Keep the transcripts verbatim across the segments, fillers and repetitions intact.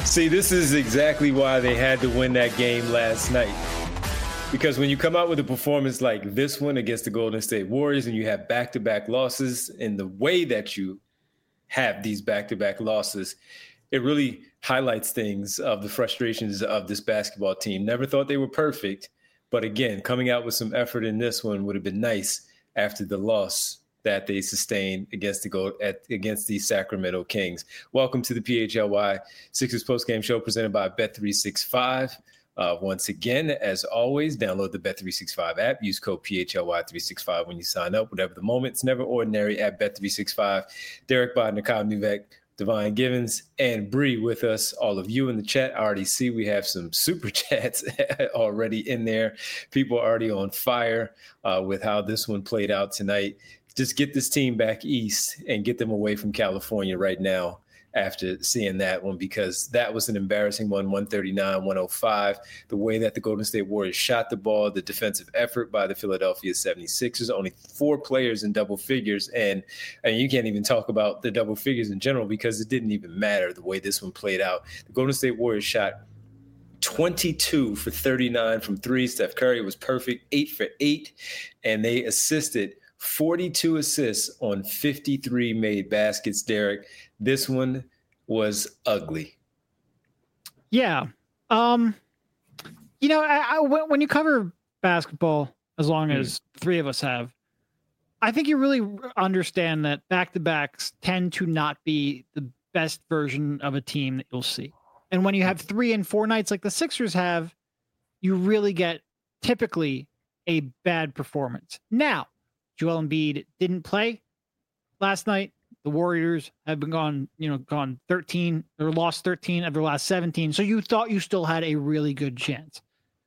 See, this is exactly why they had to win that game last night. Because when you come out with a performance like this one against the Golden State Warriors and you have back-to-back losses in the way that you have these back-to-back losses, it really highlights things of the frustrations of this basketball team. Never thought they were perfect, but again, coming out with some effort in this one would have been nice after the loss that they sustained against the Gold, at, against the Sacramento Kings. Welcome to the P H L Y Sixers postgame show presented by Bet three sixty-five. Uh, once again, as always, download the Bet three sixty-five app. Use code P H L Y three sixty-five when you sign up. Whatever the moment, it's never ordinary at Bet three sixty-five. Derek Bott, Nakam Nuvek, Divine Givens, and Bree with us. All of you in the chat. I already see we have some super chats already in there. People are already on fire uh, with how this one played out tonight. Just get this team back east and get them away from California right now after seeing that one, because that was an embarrassing one, one thirty-nine one oh five. The way that the Golden State Warriors shot the ball, the defensive effort by the Philadelphia seventy-sixers, only four players in double figures. And, and you can't even talk about the double figures in general because it didn't even matter the way this one played out. The Golden State Warriors shot twenty-two for thirty-nine from three. Steph Curry was perfect, eight for eight, and they assisted forty-two assists on fifty-three made baskets. Derek, this one was ugly. Yeah. Um, you know, I, I, when you cover basketball, as long mm. as three of us have, I think you really understand that back-to-backs tend to not be the best version of a team that you'll see. And when you have three and four nights like the Sixers have, you really get typically a bad performance. Now, Joel Embiid didn't play last night. The Warriors have been gone, you know, gone thirteen or lost thirteen of their last seventeen. So you thought you still had a really good chance.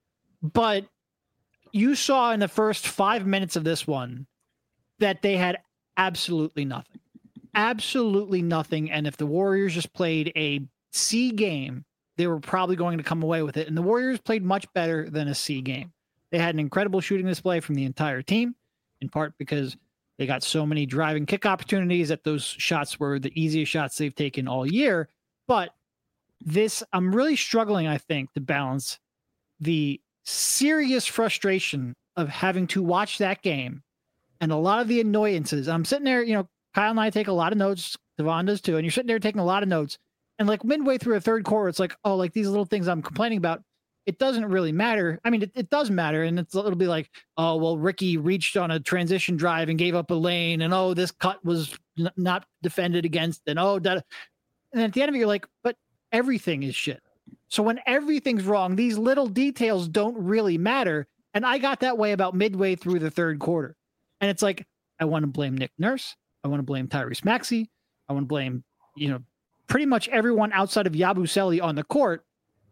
But you saw in the first five minutes of this one that they had absolutely nothing. Absolutely nothing. And if the Warriors just played a C game, they were probably going to come away with it. And the Warriors played much better than a C game. They had an incredible shooting display from the entire team, in part because they got so many driving kick opportunities that those shots were the easiest shots they've taken all year. But this, I'm really struggling, I think, to balance the serious frustration of having to watch that game and a lot of the annoyances. I'm sitting there, you know, Kyle and I take a lot of notes. Devon does too. And you're sitting there taking a lot of notes. And like midway through a third quarter, it's like, oh, like these little things I'm complaining about, it doesn't really matter. I mean, it, it does matter. And it's, it'll be like, oh, well, Ricky reached on a transition drive and gave up a lane. And, oh, this cut was n- not defended against. And, oh, that. And at the end of it, you're like, but everything is shit. So when everything's wrong, these little details don't really matter. And I got that way about midway through the third quarter. And it's like, I want to blame Nick Nurse. I want to blame Tyrese Maxey. I want to blame, you know, pretty much everyone outside of Yabusele on the court.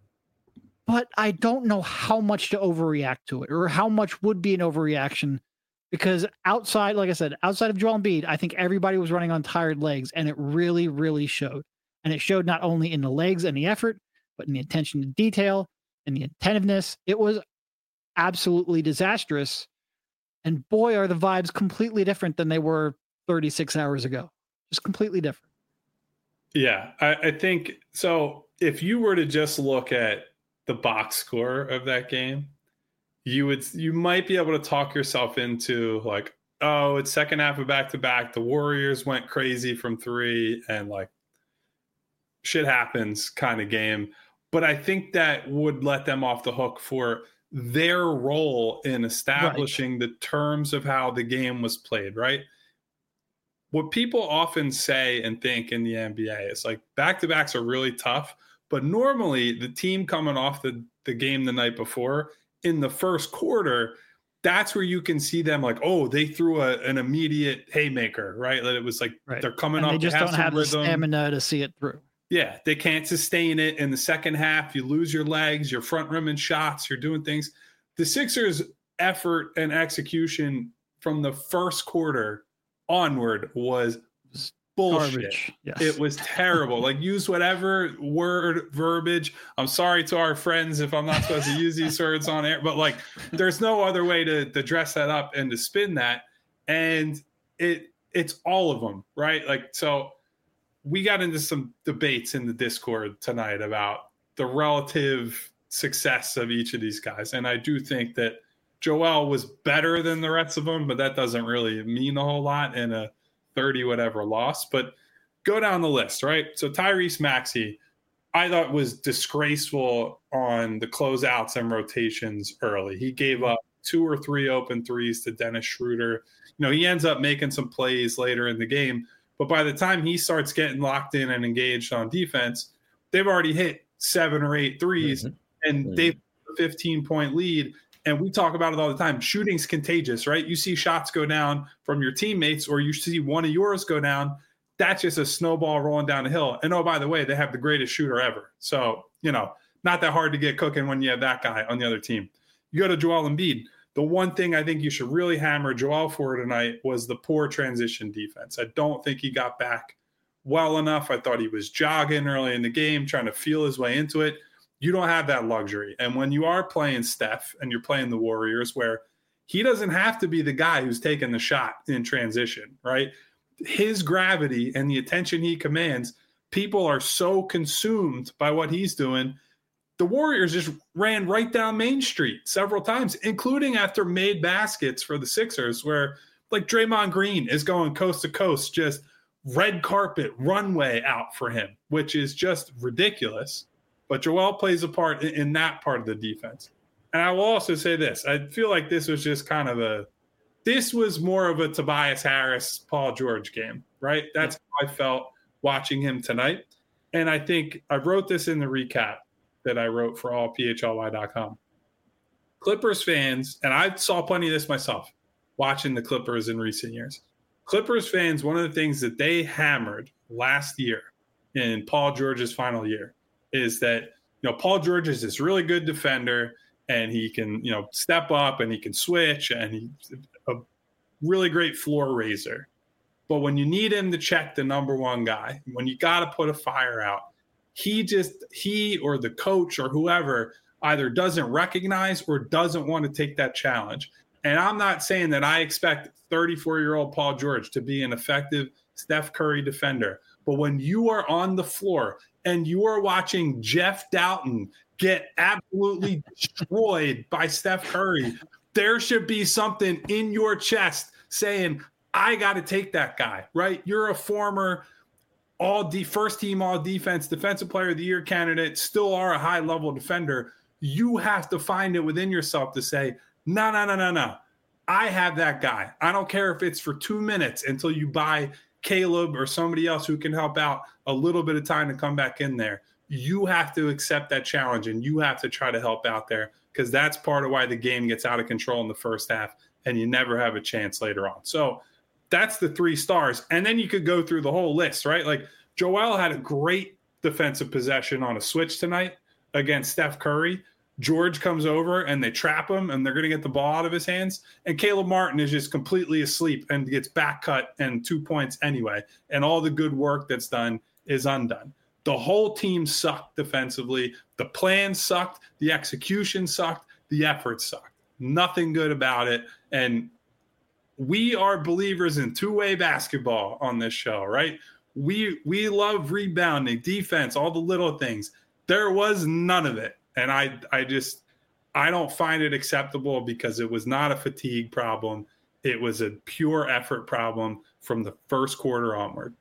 But I don't know how much to overreact to it or how much would be an overreaction, because outside, like I said, outside of Joel Embiid, I think everybody was running on tired legs, and it really, really showed. And it showed not only in the legs and the effort, but in the attention to detail and the attentiveness. It was absolutely disastrous. And boy, are the vibes completely different than they were thirty-six hours ago. Just completely different. Yeah, I, I think so. If you were to just look at the box score of that game, you would you might be able to talk yourself into like, oh, it's second half of back to back. The Warriors went crazy from three and like shit happens kind of game. But I think that would let them off the hook for their role in establishing right. the terms of how the game was played, right? What people often say and think in the N B A is like back-to-backs are really tough, but normally the team coming off the, the game the night before in the first quarter, that's where you can see them like, oh, they threw a, an immediate haymaker, right? That it was like right. they're coming and off. They just don't have rhythm. the stamina to see it through. Yeah, they can't sustain it in the second half. You lose your legs, you're front rimming shots, you're doing things. The Sixers' effort and execution from the first quarter onward was bullshit. Yes. It was terrible. Like, use whatever word, verbiage. I'm sorry to our friends if I'm not supposed to use these words on air, but like, there's no other way to, to dress that up and to spin that. And it it's all of them, right? Like, so we got into some debates in the Discord tonight about the relative success of each of these guys. And I do think that Joel was better than the rest of them, but that doesn't really mean a whole lot in a thirty whatever loss. But go down the list, right? So Tyrese Maxey, I thought was disgraceful on the closeouts and rotations early. He gave up two or three open threes to Dennis Schroeder. You know, he ends up making some plays later in the game, but by the time he starts getting locked in and engaged on defense, they've already hit seven or eight threes, mm-hmm. and mm-hmm. they've a fifteen-point lead. And we talk about it all the time. Shooting's contagious, right? You see shots go down from your teammates, or you see one of yours go down. That's just a snowball rolling down the hill. And oh, by the way, they have the greatest shooter ever. So, you know, not that hard to get cooking when you have that guy on the other team. You go to Joel Embiid. The one thing I think you should really hammer Joel for tonight was the poor transition defense. I don't think he got back well enough. I thought he was jogging early in the game, trying to feel his way into it. You don't have that luxury. And when you are playing Steph and you're playing the Warriors, where he doesn't have to be the guy who's taking the shot in transition, right? His gravity and the attention he commands, people are so consumed by what he's doing. The Warriors just ran right down Main Street several times, including after made baskets for the Sixers, where like Draymond Green is going coast to coast, just red carpet runway out for him, which is just ridiculous. But Joel plays a part in, in that part of the defense. And I will also say this. I feel like this was just kind of a, this was more of a Tobias Harris, Paul George game, right? That's how I felt watching him tonight. And I think I wrote this in the recap that I wrote for all P H L Y dot com. Clippers fans, and I saw plenty of this myself watching the Clippers in recent years. Clippers fans, one of the things that they hammered last year in Paul George's final year is that, you know, Paul George is this really good defender and he can, you know, step up and he can switch and he's a really great floor raiser. But when you need him to check the number one guy, when you got to put a fire out, he just, he or the coach or whoever either doesn't recognize or doesn't want to take that challenge. And I'm not saying that I expect thirty-four-year-old Paul George to be an effective Steph Curry defender. But when you are on the floor and you are watching Jeff Doughton get absolutely destroyed by Steph Curry, there should be something in your chest saying, I got to take that guy, right? You're a former all de- first team all defense, defensive player of the year candidate, still are a high level defender. You have to find it within yourself to say, no, no, no, no, no. I have that guy. I don't care if it's for two minutes until you buy Caleb or somebody else who can help out a little bit of time to come back in there. You have to accept that challenge and you have to try to help out there, because that's part of why the game gets out of control in the first half and you never have a chance later on. So that's the three stars. And then you could go through the whole list, right? Like Joel had a great defensive possession on a switch tonight against Steph Curry. George comes over and they trap him and they're going to get the ball out of his hands. And Caleb Martin is just completely asleep and gets back cut and two points anyway. And all the good work that's done is undone. The whole team sucked defensively. The plan sucked. The execution sucked. The effort sucked. Nothing good about it. And we are believers in two-way basketball on this show, right? We we love rebounding, defense, all the little things. There was none of it. And I I just, I don't find it acceptable, because it was not a fatigue problem. It was a pure effort problem from the first quarter onward.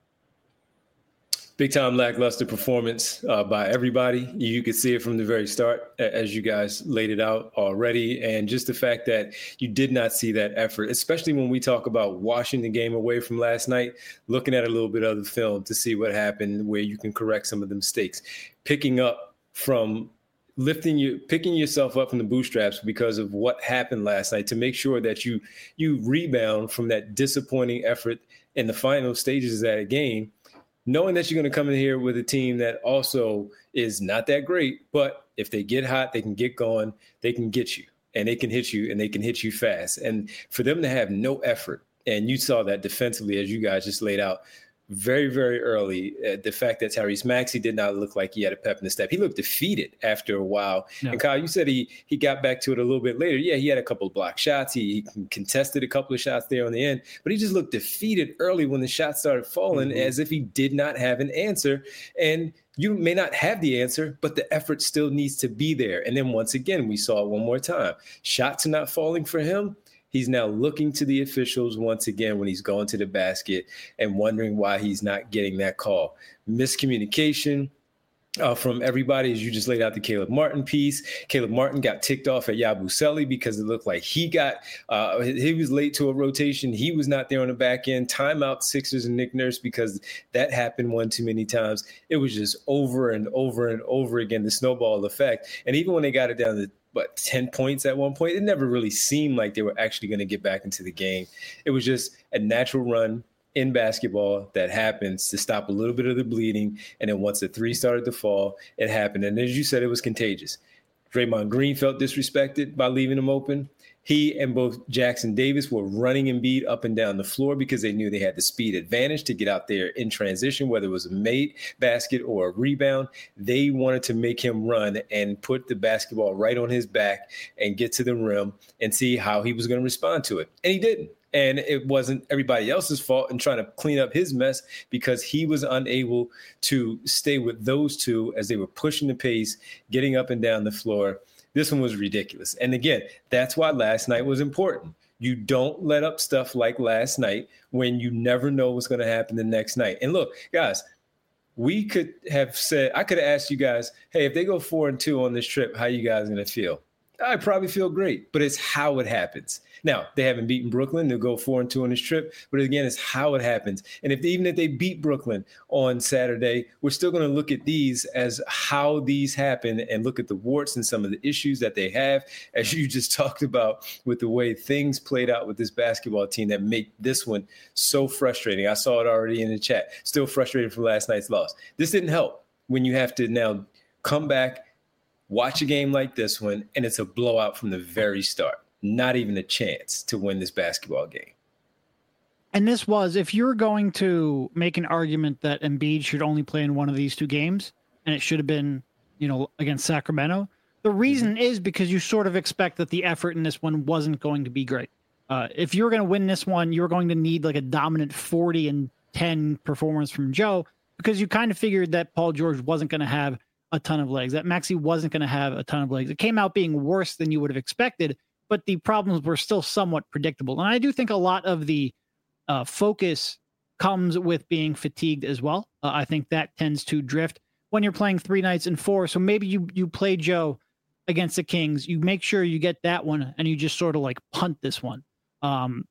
Big time lackluster performance uh, by everybody. You could see it from the very start, as you guys laid it out already. And just the fact that you did not see that effort, especially when we talk about washing the game away from last night, looking at a little bit of the film to see what happened, where you can correct some of the mistakes, picking up from lifting you, picking yourself up from the bootstraps because of what happened last night, to make sure that you, you rebound from that disappointing effort in the final stages of that game, knowing that you're going to come in here with a team that also is not that great, but if they get hot, they can get going, they can get you, and they can hit you, and they can hit you fast. And for them to have no effort, and you saw that defensively, as you guys just laid out, very, very early. Uh, the fact that Tyrese Maxey did not look like he had a pep in the step. He looked defeated after a while. Yeah. And Kyle, you said he he got back to it a little bit later. Yeah, he had a couple of block shots. He, he contested a couple of shots there on the end, but he just looked defeated early when the shots started falling, mm-hmm. as if he did not have an answer. And you may not have the answer, but the effort still needs to be there. And then once again, we saw it one more time. Shots are not falling for him. He's now looking to the officials once again when he's going to the basket and wondering why he's not getting that call. Miscommunication uh, from everybody, as you just laid out the Caleb Martin piece. Caleb Martin got ticked off at Yabusele because it looked like he got uh, – he was late to a rotation. He was not there on the back end. Timeout Sixers and Nick Nurse because that happened one too many times. It was just over and over and over again, the snowball effect. And even when they got it down to but ten points at one point, it never really seemed like they were actually going to get back into the game. It was just a natural run in basketball that happens to stop a little bit of the bleeding. And then once the three started to fall, it happened. And as you said, it was contagious. Draymond Green felt disrespected by leaving him open. He and both Jackson Davis were running Embiid up and down the floor because they knew they had the speed advantage to get out there in transition, whether it was a made basket or a rebound. They wanted to make him run and put the basketball right on his back and get to the rim and see how he was going to respond to it. And he didn't. And it wasn't everybody else's fault in trying to clean up his mess because he was unable to stay with those two as they were pushing the pace, getting up and down the floor. This one was ridiculous. And again, that's why last night was important. You don't let up stuff like last night when you never know what's going to happen the next night. And look, guys, we could have said, I could have asked you guys, hey, if they go four and two on this trip, how you guys going to feel? I'd probably feel great, but it's how it happens. Now, they haven't beaten Brooklyn. They'll go four and two on this trip. But again, it's how it happens. And if even if they beat Brooklyn on Saturday, we're still going to look at these as how these happen and look at the warts and some of the issues that they have, as you just talked about with the way things played out with this basketball team that make this one so frustrating. I saw it already in the chat. Still frustrated from last night's loss. This didn't help when you have to now come back, watch a game like this one, and it's a blowout from the very start. Not even a chance to win this basketball game. And this was, if you're going to make an argument that Embiid should only play in one of these two games, and it should have been, you know, against Sacramento, the reason mm-hmm. is because you sort of expect that the effort in this one wasn't going to be great. Uh, if you're going to win this one, you're going to need like a dominant forty and ten performance from Joe, because you kind of figured that Paul George wasn't going to have a ton of legs, that Maxey wasn't going to have a ton of legs. It came out being worse than you would have expected, but the problems were still somewhat predictable. And I do think a lot of the uh, focus comes with being fatigued as well. Uh, I think that tends to drift when you're playing three nights in four. So maybe you you play Joe against the Kings. You make sure you get that one, and you just sort of like punt this one. Um,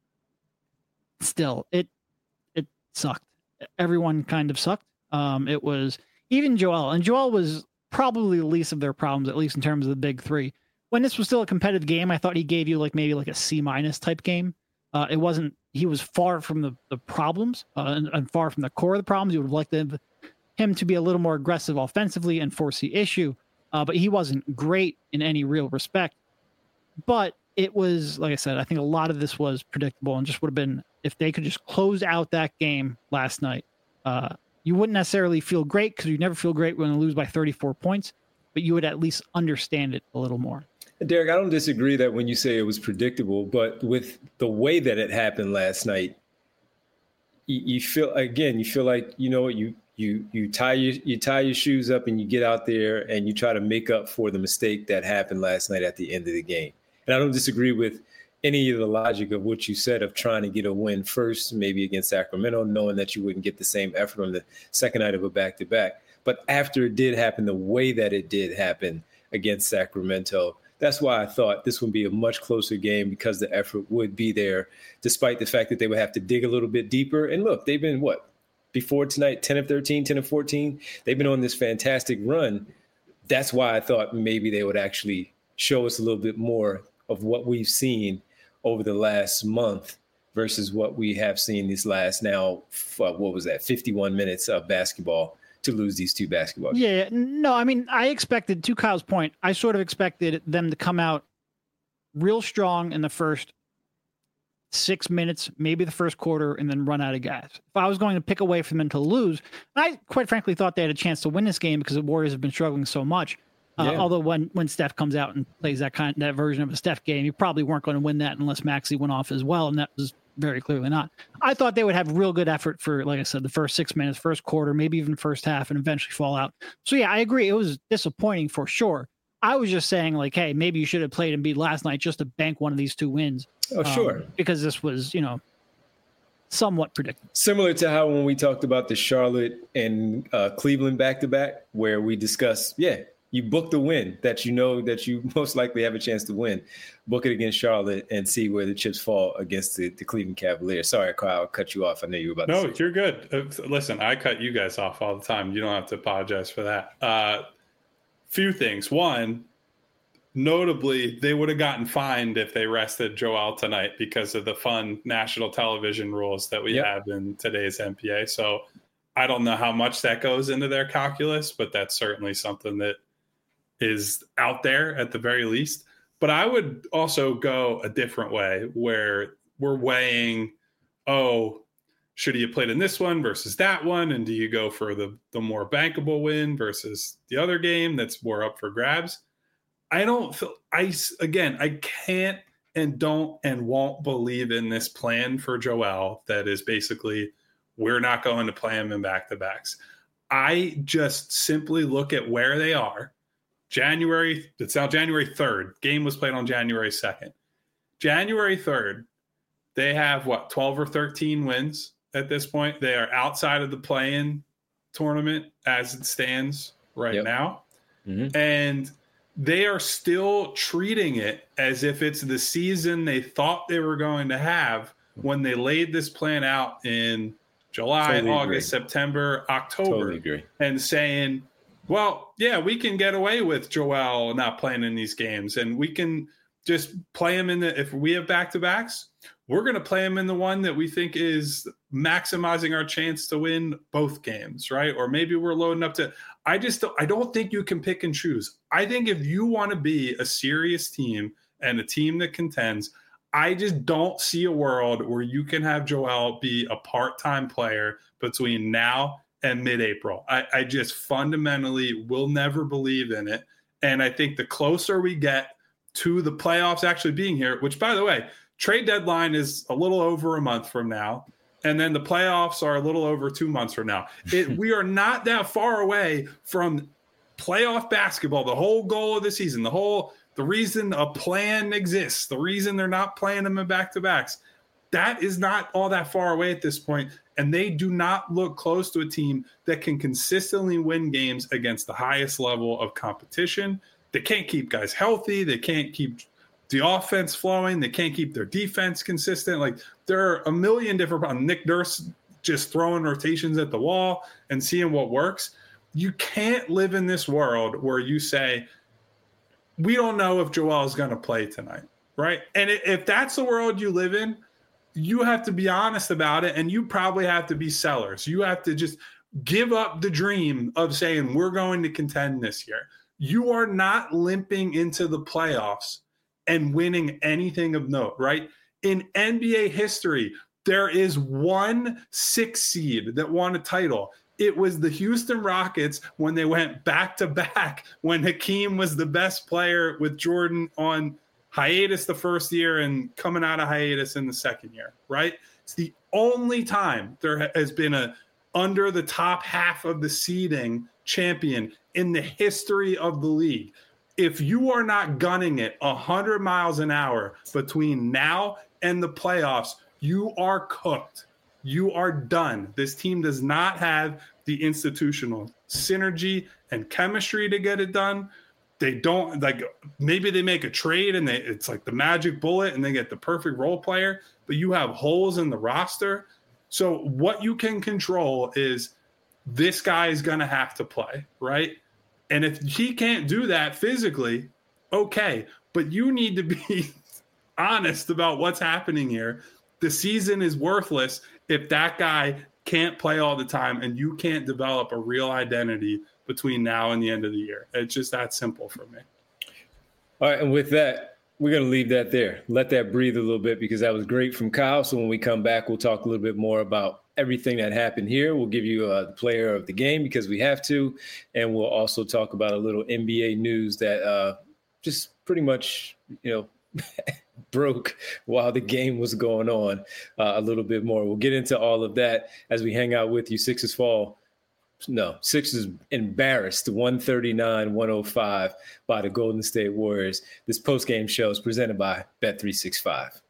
still, it it sucked. Everyone kind of sucked. Um, it was even Joel, and Joel was probably the least of their problems, at least in terms of the big three. When this was still a competitive game, I thought he gave you like maybe like a C minus type game. Uh, it wasn't, he was far from the, the problems uh, and, and far from the core of the problems. You would have liked him, him to be a little more aggressive offensively and force the issue. Uh, but he wasn't great in any real respect. But it was, like I said, I think a lot of this was predictable and just would have been, if they could just close out that game last night, uh, you wouldn't necessarily feel great because you never feel great when you lose by thirty-four points, but you would at least understand it a little more. Derek, I don't disagree that when you say it was predictable, but with the way that it happened last night, you, you feel, again, you feel like, you know, you you you tie your you tie your shoes up and you get out there and you try to make up for the mistake that happened last night at the end of the game. And I don't disagree with any of the logic of what you said of trying to get a win first, maybe against Sacramento, knowing that you wouldn't get the same effort on the second night of a back-to-back. But after it did happen, the way that it did happen against Sacramento, that's why I thought this would be a much closer game because the effort would be there, despite the fact that they would have to dig a little bit deeper. And look, they've been, what, before tonight, ten of thirteen, ten of fourteen? They've been on this fantastic run. That's why I thought maybe they would actually show us a little bit more of what we've seen over the last month versus what we have seen these last now, uh, what was that, fifty-one minutes of basketball to lose these two basketball games. Yeah, no, I mean, I expected, to Kyle's point, I sort of expected them to come out real strong in the first six minutes, maybe the first quarter, and then run out of gas. If I was going to pick away from them to lose, I quite frankly thought they had a chance to win this game because the Warriors have been struggling so much. Uh, yeah. Although when, when Steph comes out and plays that kind that version of a Steph game, you probably weren't going to win that unless Maxey went off as well, and that was very clearly not. I thought they would have real good effort for, like I said, the first six minutes, first quarter, maybe even first half, and eventually fall out. So yeah, I agree. It was disappointing for sure. I was just saying, like, hey, maybe you should have played Embiid last night just to bank one of these two wins. Oh, sure. Um, because this was, you know, somewhat predictable. Similar to how when we talked about the Charlotte and uh, Cleveland back-to-back, where we discussed, yeah, you book the win that you know that you most likely have a chance to win. Book it against Charlotte and see where the chips fall against the, the Cleveland Cavaliers. Sorry, Kyle, I cut you off. I know you were about no, to say. No, you're good. Uh, listen, I cut you guys off all the time. You don't have to apologize for that. Uh, few things. One, notably, they would have gotten fined if they rested Joel tonight because of the fun national television rules that we yep. have in today's N B A. So I don't know how much that goes into their calculus, but that's certainly something that is out there at the very least. But I would also go a different way where we're weighing, oh, should he have played in this one versus that one? And do you go for the, the more bankable win versus the other game that's more up for grabs? I don't feel I again, I can't and don't and won't believe in this plan for Joel that is basically we're not going to play him in back-to-backs. I just simply look at where they are. January, it's now January third. Game was played on January second. January third, they have what, twelve or thirteen wins at this point. They are outside of the play-in tournament as it stands right yep. now. Mm-hmm. And they are still treating it as if it's the season they thought they were going to have when they laid this plan out in July, totally August, agree. September, October, totally agree. And saying, well, yeah, we can get away with Joel not playing in these games, and we can just play him in the – if we have back-to-backs, we're going to play him in the one that we think is maximizing our chance to win both games, right? Or maybe we're loading up to – I just don't, I don't think you can pick and choose. I think if you want to be a serious team and a team that contends, I just don't see a world where you can have Joel be a part-time player between now and mid-April. I, I just fundamentally will never believe in it. And I think the closer we get to the playoffs actually being here, which, by the way, trade deadline is a little over a month from now. And then the playoffs are a little over two months from now. It, we are not that far away from playoff basketball. The whole goal of the season, the whole, the reason a plan exists, the reason they're not playing them in back-to-backs, that is not all that far away at this point. And they do not look close to a team that can consistently win games against the highest level of competition. They can't keep guys healthy. They can't keep the offense flowing. They can't keep their defense consistent. Like, there are a million different problems. Nick Nurse just throwing rotations at the wall and seeing what works. You can't live in this world where you say, we don't know if Joel is going to play tonight, right? And if that's the world you live in, you have to be honest about it, and you probably have to be sellers. You have to just give up the dream of saying we're going to contend this year. You are not limping into the playoffs and winning anything of note, right? In N B A history, there is one six seed that won a title. It was the Houston Rockets when they went back-to-back when Hakeem was the best player with Jordan on hiatus the first year and coming out of hiatus in the second year, right? It's the only time there has been a under the top half of the seeding champion in the history of the league. If you are not gunning it one hundred miles an hour between now and the playoffs, you are cooked. You are done. This team does not have the institutional synergy and chemistry to get it done. They don't, like, maybe they make a trade and they it's like the magic bullet and they get the perfect role player, but you have holes in the roster. So what you can control is this guy is going to have to play, right? And if he can't do that physically, okay, but you need to be honest about what's happening here. The season is worthless if that guy can't play all the time and you can't develop a real identity between now and the end of the year. It's just that simple for me. All right, and with that, we're going to leave that there. Let that breathe a little bit because that was great from Kyle. So when we come back, we'll talk a little bit more about everything that happened here. We'll give you uh, the player of the game because we have to. And we'll also talk about a little N B A news that uh, just pretty much, you know, broke while the game was going on uh, a little bit more. We'll get into all of that as we hang out with you. Sixers fall. No, Sixers embarrassed one thirty-nine one oh five by the Golden State Warriors. This post-game show is presented by Bet three sixty-five.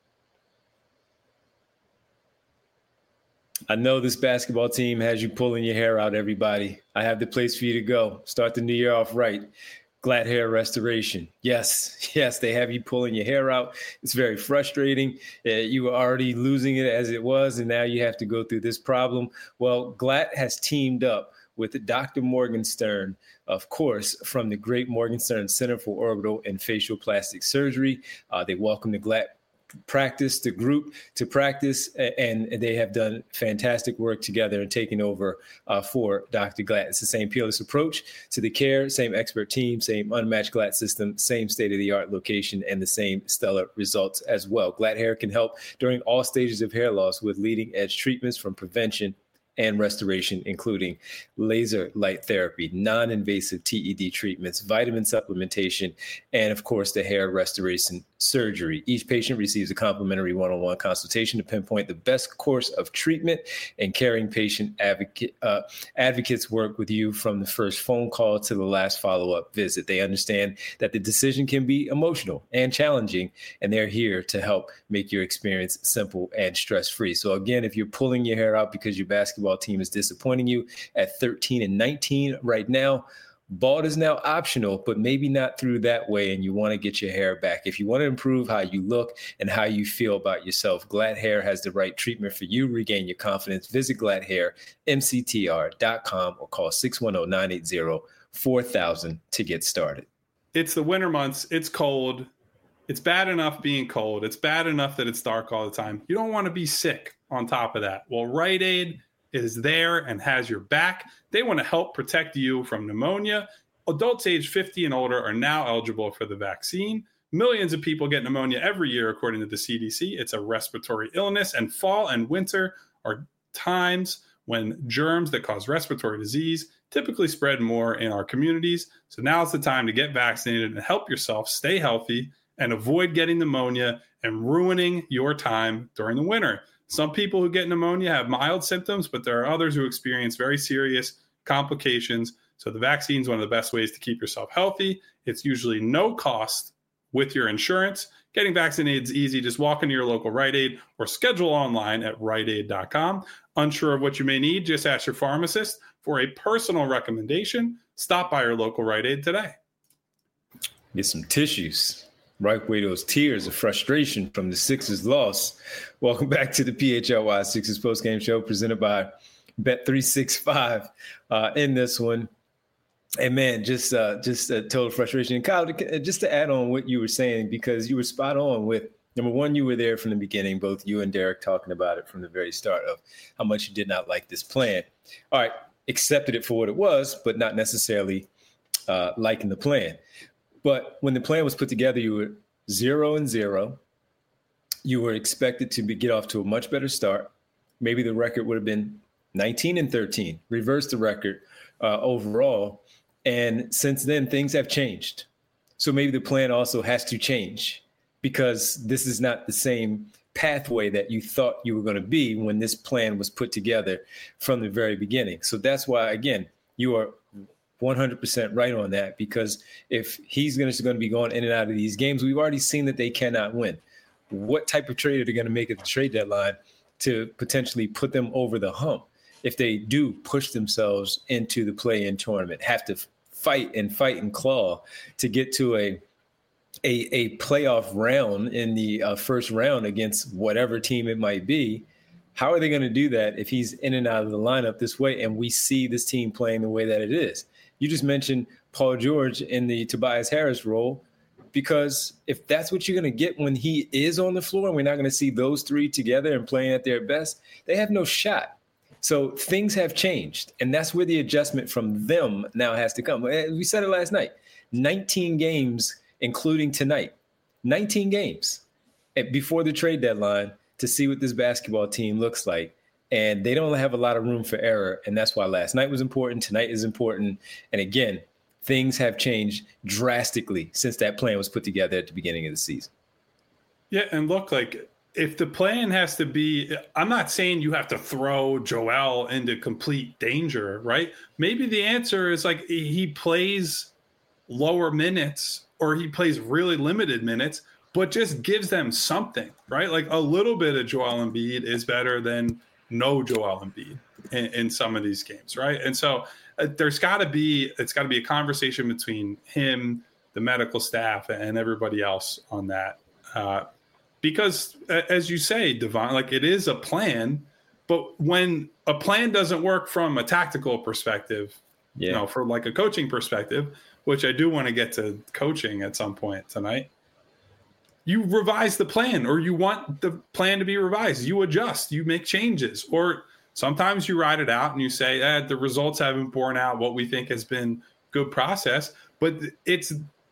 I know this basketball team has you pulling your hair out, everybody. I have the place for you to go. Start the new year off right. Glad Hair Restoration. Yes, yes, they have you pulling your hair out. It's very frustrating. Uh, you were already losing it as it was, and now you have to go through this problem. Well, Glatt has teamed up with Doctor Morgenstern, of course, from the great Morgenstern Center for Orbital and Facial Plastic Surgery. Uh, they welcome the Glatt practice, the group to practice, and they have done fantastic work together and taking over uh, for Doctor Glatt. It's the same peerless approach to the care, same expert team, same unmatched Glatt system, same state-of-the-art location, and the same stellar results as well. Glatt Hair can help during all stages of hair loss with leading-edge treatments from prevention and restoration, including laser light therapy, non-invasive T E D treatments, vitamin supplementation, and of course, the hair restoration surgery. Each patient receives a complimentary one-on-one consultation to pinpoint the best course of treatment, and caring patient advocate, uh, advocates work with you from the first phone call to the last follow-up visit. They understand that the decision can be emotional and challenging, and they're here to help make your experience simple and stress-free. So again, if you're pulling your hair out because your basketball team is disappointing you at thirteen and nineteen right now, bald is now optional, but maybe not through that way, and you want to get your hair back. If you want to improve how you look and how you feel about yourself, Glatt Hair has the right treatment for you. Regain your confidence. Visit Glatt Hair M C T R dot com or call six one zero, nine eight zero, four thousand to get started. It's the winter months. It's cold. It's bad enough being cold. It's bad enough that it's dark all the time. You don't want to be sick on top of that. Well, Rite Aid is there and has your back. They want to help protect you from pneumonia. Adults age fifty and older are now eligible for the vaccine. Millions of people get pneumonia every year, according to the C D C. It's a respiratory illness, and fall and winter are times when germs that cause respiratory disease typically spread more in our communities. So now is the time to get vaccinated and help yourself stay healthy and avoid getting pneumonia and ruining your time during the winter. Some people who get pneumonia have mild symptoms, but there are others who experience very serious complications. So the vaccine is one of the best ways to keep yourself healthy. It's usually no cost with your insurance. Getting vaccinated is easy. Just walk into your local Rite Aid or schedule online at rite aid dot com. Unsure of what you may need? Just ask your pharmacist for a personal recommendation. Stop by your local Rite Aid today. Get some tissues. Wipe away those tears of frustration from the Sixers loss. Welcome back to the P H L Y Sixers postgame show presented by Bet three sixty-five. Uh, in this one, and man, just uh, just a total frustration. And Kyle, just to add on what you were saying, because you were spot on with number one, you were there from the beginning, both you and Derek talking about it from the very start of how much you did not like this plan. All right, accepted it for what it was, but not necessarily uh, liking the plan. But when the plan was put together, you were zero and zero. You were expected to be, get off to a much better start. Maybe the record would have been nineteen and thirteen, reverse the record uh, overall. And since then, things have changed. So maybe the plan also has to change because this is not the same pathway that you thought you were going to be when this plan was put together from the very beginning. So that's why, again, you are one hundred percent right on that, because if he's going to, going to be going in and out of these games, we've already seen that they cannot win. What type of trade are they going to make at the trade deadline to potentially put them over the hump if they do push themselves into the play-in tournament, have to fight and fight and claw to get to a a, a playoff round in the uh, first round against whatever team it might be? How are they going to do that if he's in and out of the lineup this way and we see this team playing the way that it is? You just mentioned Paul George in the Tobias Harris role, because if that's what you're going to get when he is on the floor and we're not going to see those three together and playing at their best, they have no shot. So things have changed, and that's where the adjustment from them now has to come. We said it last night, nineteen games, including tonight, nineteen games before the trade deadline to see what this basketball team looks like. And they don't have a lot of room for error. And that's why last night was important. Tonight is important. And again, things have changed drastically since that plan was put together at the beginning of the season. Yeah, and look, like, if the plan has to be, I'm not saying you have to throw Joel into complete danger, right? Maybe the answer is like he plays lower minutes or he plays really limited minutes, but just gives them something, right? Like a little bit of Joel Embiid is better than no Joel Embiid in, in some of these games, right? And so uh, there's got to be, it's got to be a conversation between him, the medical staff, and everybody else on that. Uh, Because, as you say, Devon, like it is a plan, but when a plan doesn't work from a tactical perspective, yeah. you know, for like a coaching perspective, which I do want to get to coaching at some point tonight, you revise the plan, or you want the plan to be revised. You adjust, you make changes, or sometimes you ride it out and you say, eh, the results haven't borne out what we think has been good process, but it's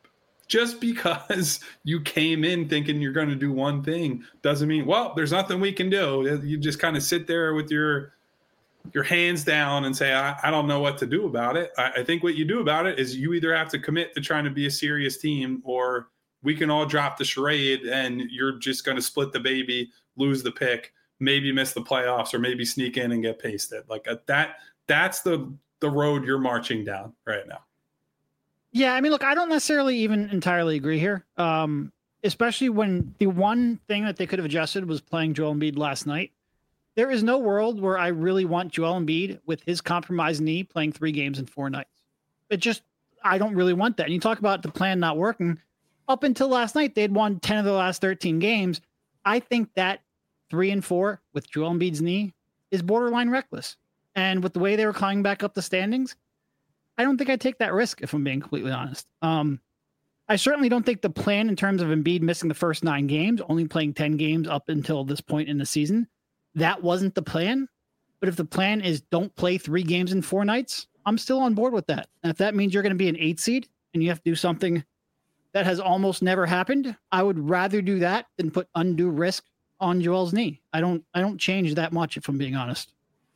just because you came in thinking you're going to do one thing doesn't mean, well, there's nothing we can do. You just kind of sit there with your your hands down and say, I, I don't know what to do about it. I, I think what you do about it is you either have to commit to trying to be a serious team, or we can all drop the charade and you're just going to split the baby, lose the pick, maybe miss the playoffs, or maybe sneak in and get pasted. Like that, that's the the road you're marching down right now. Yeah, I mean, look, I don't necessarily even entirely agree here, um, especially when the one thing that they could have adjusted was playing Joel Embiid last night. There is no world where I really want Joel Embiid with his compromised knee playing three games in four nights. It just, I don't really want that. And you talk about the plan not working. Up until last night, they'd won ten of the last thirteen games. I think that three and four with Joel Embiid's knee is borderline reckless. And with the way they were climbing back up the standings, I don't think I'd take that risk, if I'm being completely honest. Um, I certainly don't think the plan in terms of Embiid missing the first nine games, only playing ten games up until this point in the season, that wasn't the plan. But if the plan is don't play three games in four nights, I'm still on board with that. And if that means you're going to be an eight seed and you have to do something that has almost never happened, I would rather do that than put undue risk on Joel's knee. I don't, I don't change that much, if I'm being honest.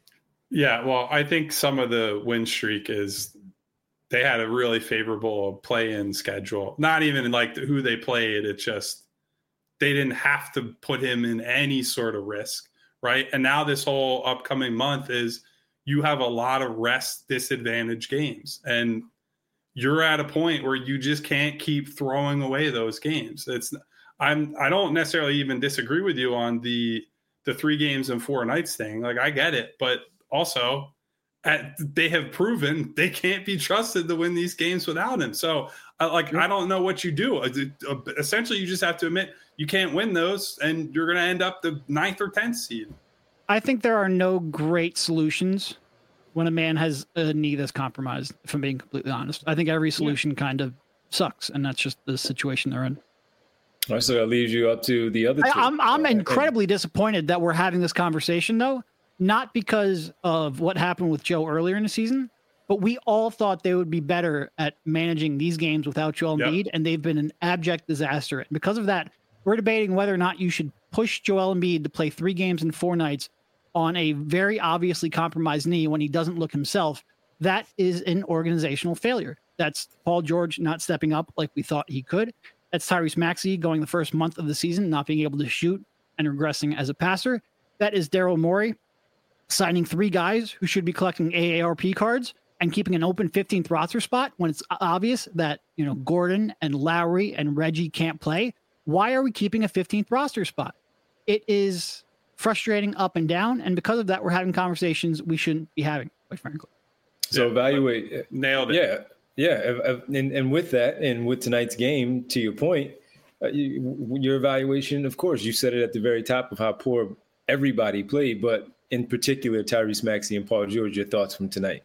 Yeah, well, I think some of the win streak is they had a really favorable play-in schedule. Not even like who they played. It's just they didn't have to put him in any sort of risk, right? And now this whole upcoming month is you have a lot of rest disadvantage games. And you're at a point where you just can't keep throwing away those games. It's I'm I don't necessarily even disagree with you on the the three games and four nights thing. Like I get it, but also At, they have proven they can't be trusted to win these games without him. So, uh, like, I don't know what you do. Uh, uh, essentially, you just have to admit you can't win those, and you're going to end up the ninth or tenth seed. I think there are no great solutions when a man has a knee that's compromised, if I'm being completely honest. I think every solution yeah. kind of sucks, and that's just the situation they're in. All right, so that leaves you up to the other two. I, I'm, I'm incredibly disappointed that we're having this conversation, though. Not because of what happened with Joe earlier in the season, but we all thought they would be better at managing these games without Joel Embiid, yep. and they've been an abject disaster. And because of that, we're debating whether or not you should push Joel Embiid to play three games in four nights on a very obviously compromised knee when he doesn't look himself. That is an organizational failure. That's Paul George not stepping up like we thought he could. That's Tyrese Maxey going the first month of the season, not being able to shoot and regressing as a passer. That is Daryl Morey signing three guys who should be collecting A A R P cards and keeping an open fifteenth roster spot when it's obvious that, you know, Gordon and Lowry and Reggie can't play. Why are we keeping a fifteenth roster spot? It is frustrating up and down. And because of that, we're having conversations we shouldn't be having, quite frankly. So yeah, evaluate. Nailed it. Yeah. Yeah. And, and with that, and with tonight's game, to your point, uh, you, your evaluation, of course, you said it at the very top of how poor everybody played, but in particular, Tyrese Maxey and Paul George, your thoughts from tonight?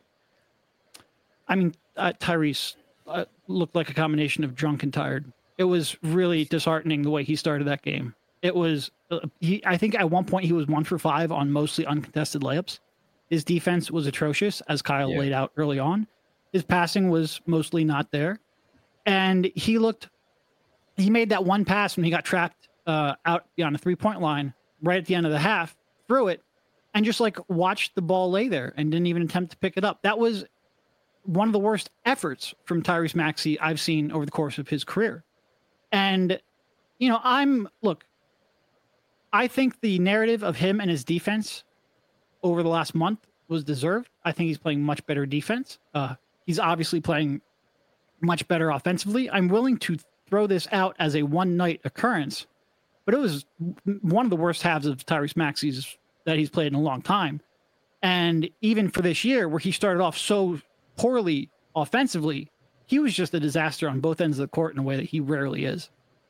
I mean, uh, Tyrese uh, looked like a combination of drunk and tired. It was really disheartening the way he started that game. It was, uh, he, I think at one point he was one for five on mostly uncontested layups. His defense was atrocious, as Kyle yeah. laid out early on. His passing was mostly not there. And he looked he made that one pass when he got trapped uh, out on the three-point line right at the end of the half, threw it, and just like watched the ball lay there and didn't even attempt to pick it up. That was one of the worst efforts from Tyrese Maxey I've seen over the course of his career. And, you know, I'm, look, I think the narrative of him and his defense over the last month was deserved. I think he's playing much better defense. Uh, he's obviously playing much better offensively. I'm willing to throw this out as a one-night occurrence, but it was one of the worst halves of Tyrese Maxey's that he's played in a long time. And even for this year, where he started off so poorly offensively, he was just a disaster on both ends of the court in a way that he rarely is.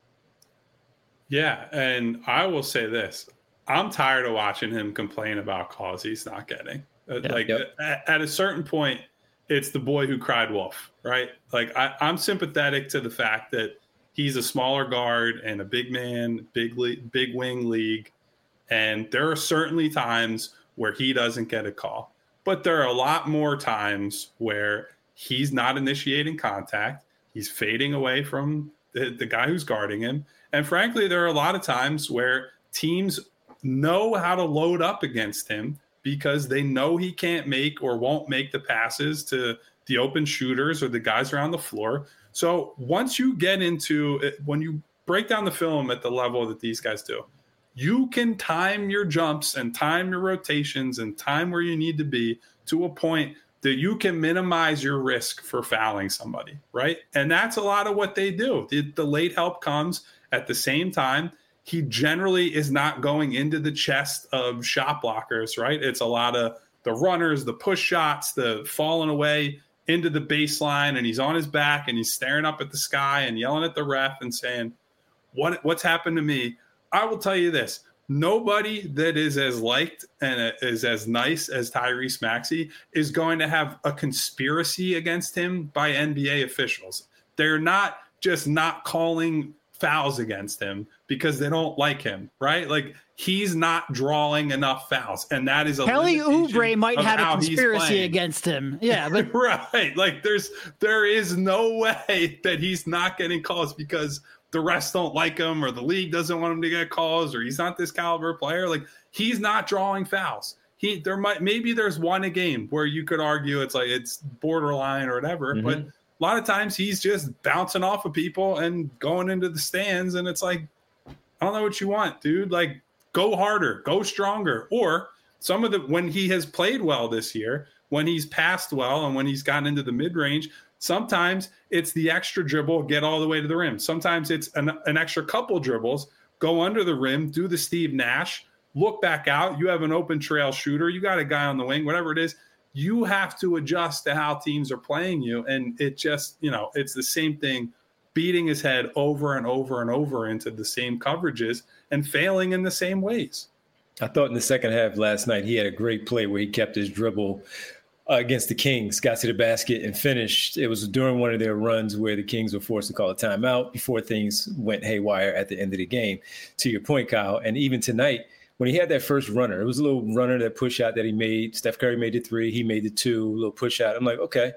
Yeah, and I will say this. I'm tired of watching him complain about calls he's not getting. Yeah, like yep. at, at a certain point, it's the boy who cried wolf, right? Like I, I'm sympathetic to the fact that he's a smaller guard and a big man, big le- big wing league. And there are certainly times where he doesn't get a call. But there are a lot more times where he's not initiating contact. He's fading away from the, the guy who's guarding him. And frankly, there are a lot of times where teams know how to load up against him because they know he can't make or won't make the passes to the open shooters or the guys around the floor. So once you get into it, when you break down the film at the level that these guys do, you can time your jumps and time your rotations and time where you need to be to a point that you can minimize your risk for fouling somebody, right? And that's a lot of what they do. The, the late help comes at the same time. He generally is not going into the chest of shot blockers, right? It's a lot of the runners, the push shots, the falling away into the baseline, and he's on his back and he's staring up at the sky and yelling at the ref and saying, "What what's happened to me?" I will tell you this. Nobody that is as liked and is as nice as Tyrese Maxey is going to have a conspiracy against him by N B A officials. They're not just not calling fouls against him because they don't like him, right? Like he's not drawing enough fouls, and that is a Kelly Oubre might have a conspiracy against him. Yeah, but right. Like there's there is no way that he's not getting calls because the rest don't like him or the league doesn't want him to get calls or he's not this caliber player. Like he's not drawing fouls. He there might maybe there's one a game where you could argue it's like it's borderline or whatever, mm-hmm. but a lot of times he's just bouncing off of people and going into the stands. And it's like, I don't know what you want, dude. Like, go harder, go stronger. Or some of the, when he has played well this year, when he's passed well and when he's gotten into the mid-range, sometimes it's the extra dribble, get all the way to the rim. Sometimes it's an, an extra couple dribbles, go under the rim, do the Steve Nash, look back out. You have an open trail shooter. You got a guy on the wing, whatever it is. You have to adjust to how teams are playing you. And it just, you know, it's the same thing, beating his head over and over and over into the same coverages and failing in the same ways. I thought in the second half last night, he had a great play where he kept his dribble uh, against the Kings, got to the basket and finished. It was during one of their runs where the Kings were forced to call a timeout before things went haywire at the end of the game, to your point, Kyle. And even tonight, when he had that first runner, it was a little runner, that push shot that he made. Steph Curry made the three. He made the two, a little push shot. I'm like, okay.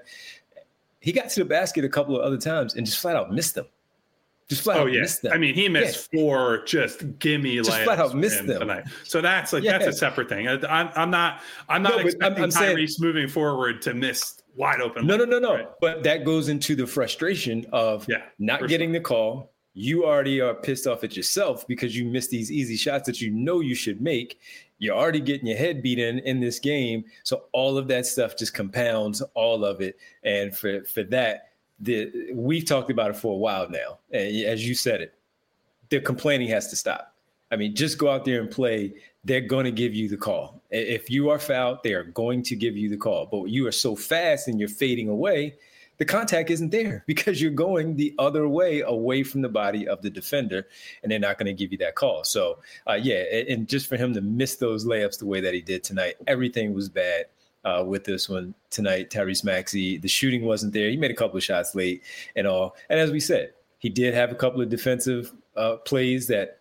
He got to the basket a couple of other times and just flat out missed them. Just flat oh, out yeah. missed them. I mean, he missed yeah. four just gimme layups. Just flat out missed them tonight. So that's like yeah. that's a separate thing. I, I'm, I'm not I'm not no, expecting I'm, I'm Tyrese saying, moving forward to miss wide open. No, no, no, no. Right? But that goes into the frustration of yeah, not getting sure. the call. You already are pissed off at yourself because you missed these easy shots that you know you should make. You're already getting your head beat in in this game. So all of that stuff just compounds all of it. And for, for that, the we've talked about it for a while now. And as you said it, the complaining has to stop. I mean, just go out there and play. They're going to give you the call. If you are fouled, they are going to give you the call. But you are so fast and you're fading away, the contact isn't there because you're going the other way, away from the body of the defender, and they're not going to give you that call. So, uh, yeah, and just for him to miss those layups the way that he did tonight, everything was bad uh, with this one tonight. Tyrese Maxey, the shooting wasn't there. He made a couple of shots late and all. And as we said, he did have a couple of defensive uh, plays that were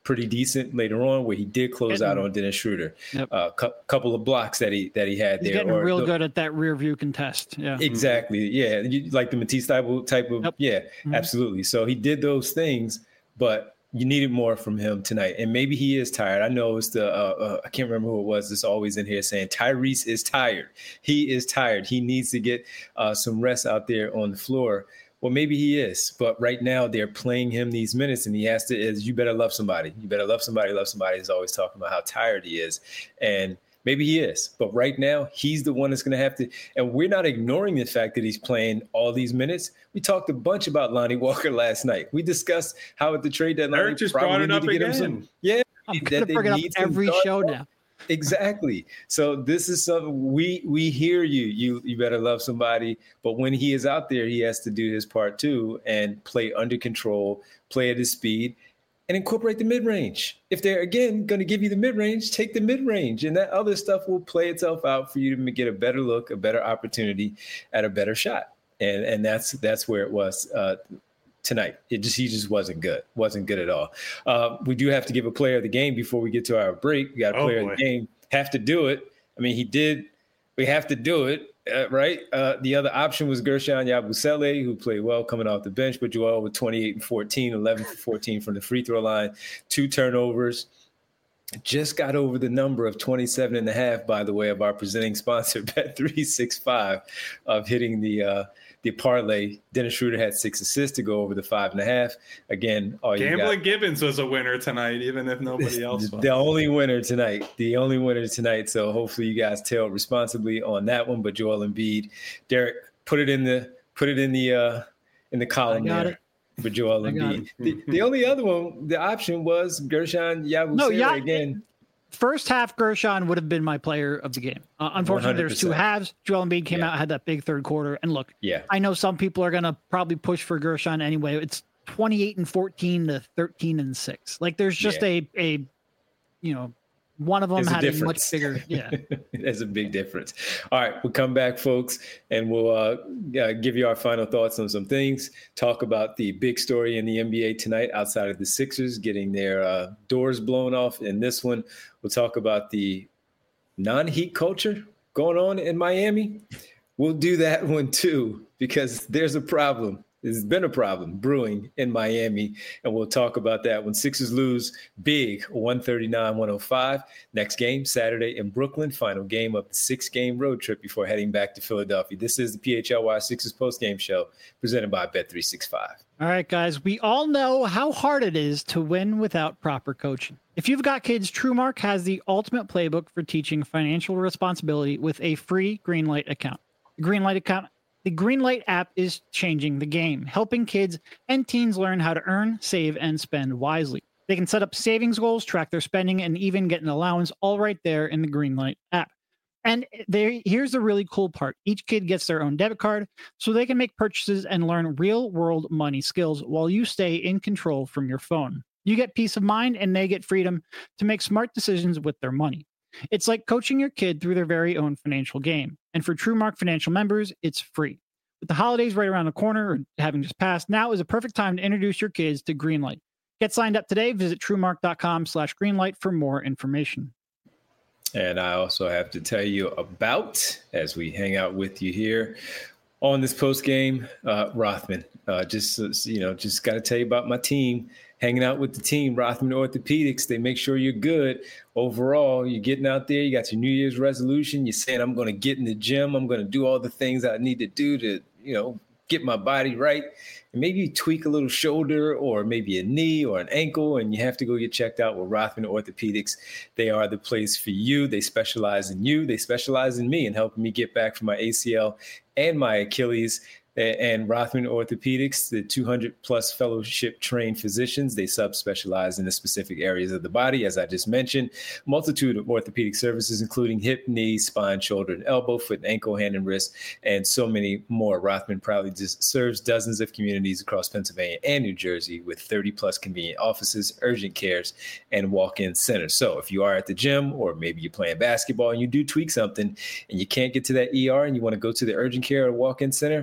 pretty decent later on, where he did close Getting, out on Dennis Schroeder. A yep. uh, cu- couple of blocks that he that he had He's there. getting or real the, good at that rear view contest. Yeah, exactly. Yeah, you, like the Matisse type of type of. Yep. Yeah, mm-hmm. absolutely. So he did those things, but you needed more from him tonight. And maybe he is tired. I know it's the, uh, uh, I can't remember who it was that's always in here saying Tyrese is tired. He is tired. He needs to get uh, some rest out there on the floor. Well, maybe he is. But right now they're playing him these minutes and he has to, is you better love somebody. You better love somebody, love somebody. He's always talking about how tired he is. And maybe he is, but right now he's the one that's going to have to, and we're not ignoring the fact that he's playing all these minutes. We talked a bunch about Lonnie Walker last night. We discussed how at the trade deadline, Eric just brought it up again. Some, yeah, I'm going to bring it up every show now. Exactly. So this is something we we hear you. You you better love somebody, but when he is out there, he has to do his part too and play under control, play at his speed. And incorporate the mid-range. If they're, again, going to give you the mid-range, take the mid-range. And that other stuff will play itself out for you to get a better look, a better opportunity at a better shot. And and that's that's where it was uh, tonight. It just He just wasn't good. Wasn't good at all. Uh, we do have to give a player of the game before we get to our break. We got a player oh, of the game. Have to do it. I mean, he did. We have to do it. Uh, right. Uh, the other option was Guerschon Yabusele, who played well coming off the bench, but Joel with twenty-eight and fourteen, eleven for fourteen from the free throw line, two turnovers. Just got over the number of twenty-seven and a half, by the way, of our presenting sponsor, Bet three sixty-five, of hitting the uh, the parlay. Dennis Schroeder had six assists to go over the five and a half. Again, all you Gambling got, Gibbons was a winner tonight, even if nobody else was. The only winner tonight. The only winner tonight. So hopefully you guys tailed responsibly on that one. But Joel Embiid, Derek, put it in the put it in the uh, in the column there. It. For Joel Embiid. The, the only other one, the option was Guerschon Yabusele no, yeah, again. First half, Guerschon would have been my player of the game. Uh, unfortunately, there's two halves. Joel Embiid came yeah. out, had that big third quarter. And look, yeah. I know some people are going to probably push for Guerschon anyway. It's twenty-eight and fourteen to thirteen and six. Like there's just yeah. a, a, you know, one of them There's had a, a much bigger, yeah. There's a big difference. All right, we'll come back, folks, and we'll uh, uh, give you our final thoughts on some things, talk about the big story in the N B A tonight outside of the Sixers getting their uh, doors blown off in this one. We'll talk about the non-Heat culture going on in Miami. We'll do that one too, because there's a problem. There's been a problem brewing in Miami, and we'll talk about that when Sixers lose big, one thirty-nine one oh five. Next game, Saturday in Brooklyn, final game of the six-game road trip before heading back to Philadelphia. This is the P H L Y Sixers postgame show presented by Bet three sixty-five. All right, guys, we all know how hard it is to win without proper coaching. If you've got kids, TrueMark has the ultimate playbook for teaching financial responsibility with a free Greenlight account. The Greenlight account The Greenlight app is changing the game, helping kids and teens learn how to earn, save, and spend wisely. They can set up savings goals, track their spending, and even get an allowance all right there in the Greenlight app. And there, here's the really cool part. Each kid gets their own debit card, so they can make purchases and learn real-world money skills while you stay in control from your phone. You get peace of mind, and they get freedom to make smart decisions with their money. It's like coaching your kid through their very own financial game. And for TrueMark Financial members, it's free. With the holidays right around the corner or having just passed, now is a perfect time to introduce your kids to Greenlight. Get signed up today. Visit TrueMark.com slash Greenlight for more information. And I also have to tell you about, as we hang out with you here on this post game, uh, Rothman. Uh, just, you know, just got to tell you about my team. Hanging out with the team, Rothman Orthopedics. They make sure you're good overall. You're getting out there. You got your New Year's resolution. You're saying, I'm going to get in the gym. I'm going to do all the things I need to do to, you know, get my body right. And maybe you tweak a little shoulder or maybe a knee or an ankle, and you have to go get checked out with Rothman Orthopedics. They are the place for you. They specialize in you. They specialize in me and helping me get back from my A C L and my Achilles. And Rothman Orthopedics, the two hundred plus fellowship trained physicians, they subspecialize in the specific areas of the body, as I just mentioned. Multitude of orthopedic services, including hip, knee, spine, shoulder, and elbow, foot, and ankle, hand, and wrist, and so many more. Rothman proudly just serves dozens of communities across Pennsylvania and New Jersey with thirty plus convenient offices, urgent cares, and walk-in centers. So if you are at the gym or maybe you're playing basketball and you do tweak something and you can't get to that E R and you want to go to the urgent care or walk-in center, they have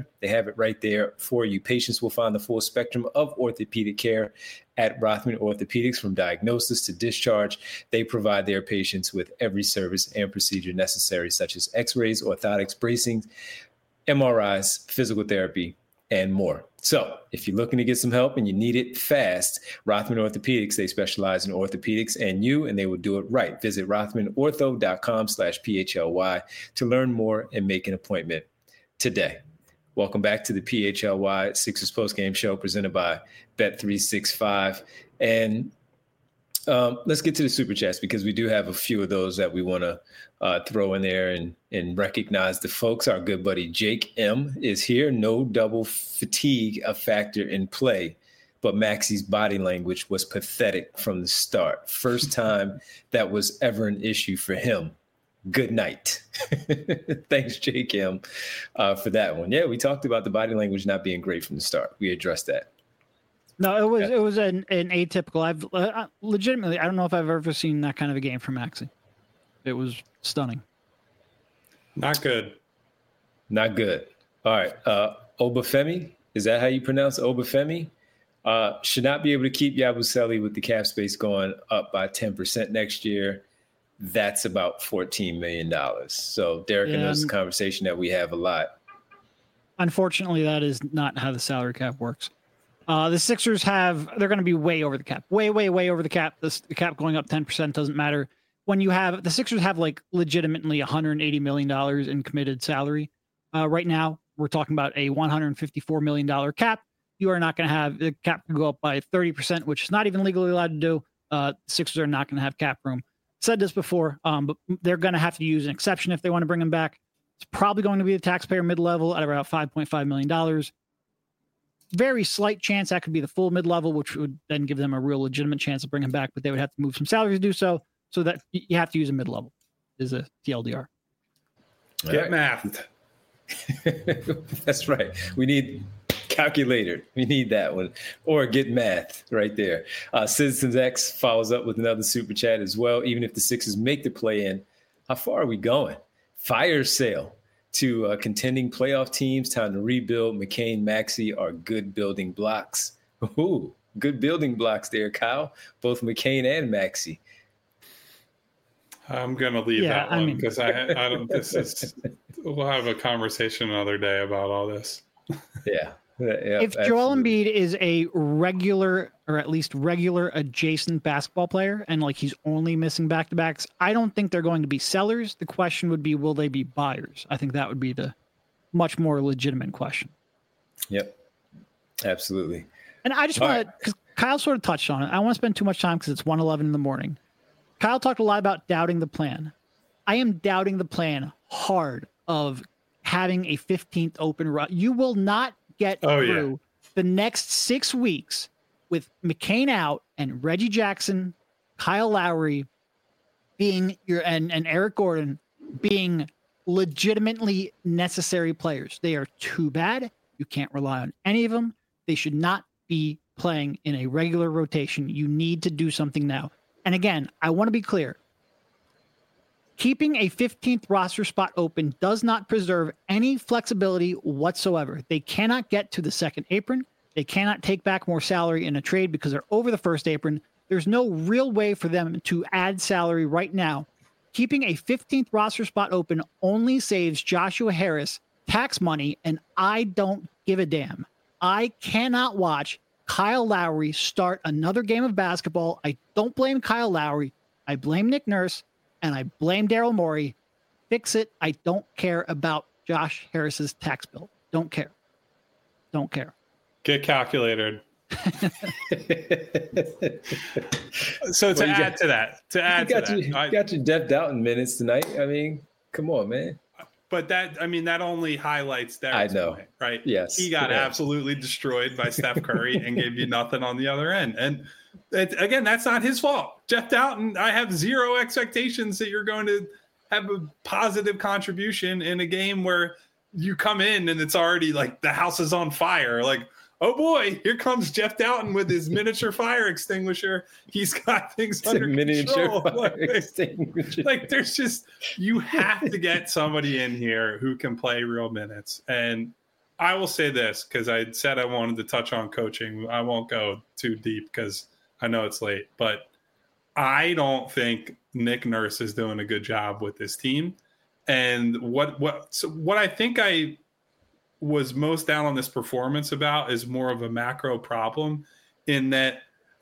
have it right there for you. Patients will find the full spectrum of orthopedic care at Rothman Orthopedics, from diagnosis to discharge. They provide their patients with every service and procedure necessary, such as x-rays, orthotics, bracing, M R Is, physical therapy, and more. So if you're looking to get some help and you need it fast, Rothman Orthopedics, they specialize in orthopedics and you, and they will do it right. Visit rothmanortho.com slash PHLY to learn more and make an appointment today. Welcome back to the P H L Y Sixers postgame show presented by Bet three sixty-five. And um, let's get to the super chats, because we do have a few of those that we want to uh, throw in there and, and recognize the folks. Our good buddy Jake M is here. No double fatigue a factor in play, but Maxey's body language was pathetic from the start. First time that was ever an issue for him. Good night. Thanks, Jake M, uh, for that one. Yeah, we talked about the body language not being great from the start. We addressed that. No, it was it was an, an atypical. I've uh, legitimately, I don't know if I've ever seen that kind of a game from Maxey. It was stunning. Not good. Not good. All right. Uh, Obafemi, is that how you pronounce Obafemi? Uh, should not be able to keep Yabusele with the cap space going up by ten percent next year. That's about fourteen million dollars. So Derek yeah, knows the conversation that we have a lot. Unfortunately, that is not how the salary cap works. Uh, the Sixers have, they're going to be way over the cap, way, way, way over the cap. The, the cap going up ten percent doesn't matter. When you have, the Sixers have like legitimately one hundred eighty million dollars in committed salary. Uh, right now, we're talking about a one hundred fifty-four million dollars cap. You are not going to have, the cap can go up by thirty percent, which is not even legally allowed to do. Uh, Sixers are not going to have cap room. Said this before, um, but they're going to have to use an exception if they want to bring him back. It's probably going to be the taxpayer mid-level at about five point five million dollars. Very slight chance that could be the full mid-level, which would then give them a real legitimate chance of bringing him back, but they would have to move some salaries to do so. So that you have to use a mid-level is a T L D R. Get mathed. That's right. We need calculator. We need that one. Or get math right there. Uh, Citizens X follows up with another super chat as well. Even if the Sixers make the play-in, how far are we going? Fire sale to uh, contending playoff teams. Time to rebuild. McCain, Maxey are good building blocks. Ooh, good building blocks there, Kyle. Both McCain and Maxey. I'm gonna leave Yeah, that I one mean- because I, I don't. This is. We'll have a conversation another day about all this. Yeah. Yeah, If Joel absolutely. Embiid is a regular, or at least regular adjacent basketball player, and like he's only missing back-to-backs, I don't think they're going to be sellers. The question would be, will they be buyers? I think that would be the much more legitimate question. Yep. Absolutely. And I just All want to, because Kyle sort of touched on it. I don't want to spend too much time because it's one eleven in the morning. Kyle talked a lot about doubting the plan. I am doubting the plan hard of having a fifteenth open run. You will not get Oh, yeah. through the next six weeks with McCain out and Reggie Jackson, Kyle Lowry being your and, and Eric Gordon being legitimately necessary players. They are too bad. You can't rely on any of them. They should not be playing in a regular rotation. You need to do something now. And again, I want to be clear. Keeping a fifteenth roster spot open does not preserve any flexibility whatsoever. They cannot get to the second apron. They cannot take back more salary in a trade because they're over the first apron. There's no real way for them to add salary right now. Keeping a fifteenth roster spot open only saves Joshua Harris tax money, and I don't give a damn. I cannot watch Kyle Lowry start another game of basketball. I don't blame Kyle Lowry. I blame Nick Nurse. And I blame Daryl Morey. Fix it. I don't care about Josh Harris's tax bill. Don't care. Don't care. Get calculated. So to Well, you add got- to that, to You add to got, that, your, I- you got your Def Doughton minutes tonight. I mean, come on, man. but that I mean that only highlights Derek's I know. point, right? Yes. He got Yeah. absolutely destroyed by Steph Curry and gave you nothing on the other end. And it, again, that's not his fault. Jeff Doughton, I have zero expectations that you're going to have a positive contribution in a game where you come in and it's already like the house is on fire. Like, oh boy, here comes Jeff Doughton with his miniature fire extinguisher. He's got things It's a under miniature control. fire Like, extinguisher. like there's just you have to get somebody in here who can play real minutes, and I will say this because I said I wanted to touch on coaching. I won't go too deep because I know it's late, but I don't think Nick Nurse is doing a good job with this team. And what what so what I think I was most down on this performance about is more of a macro problem in that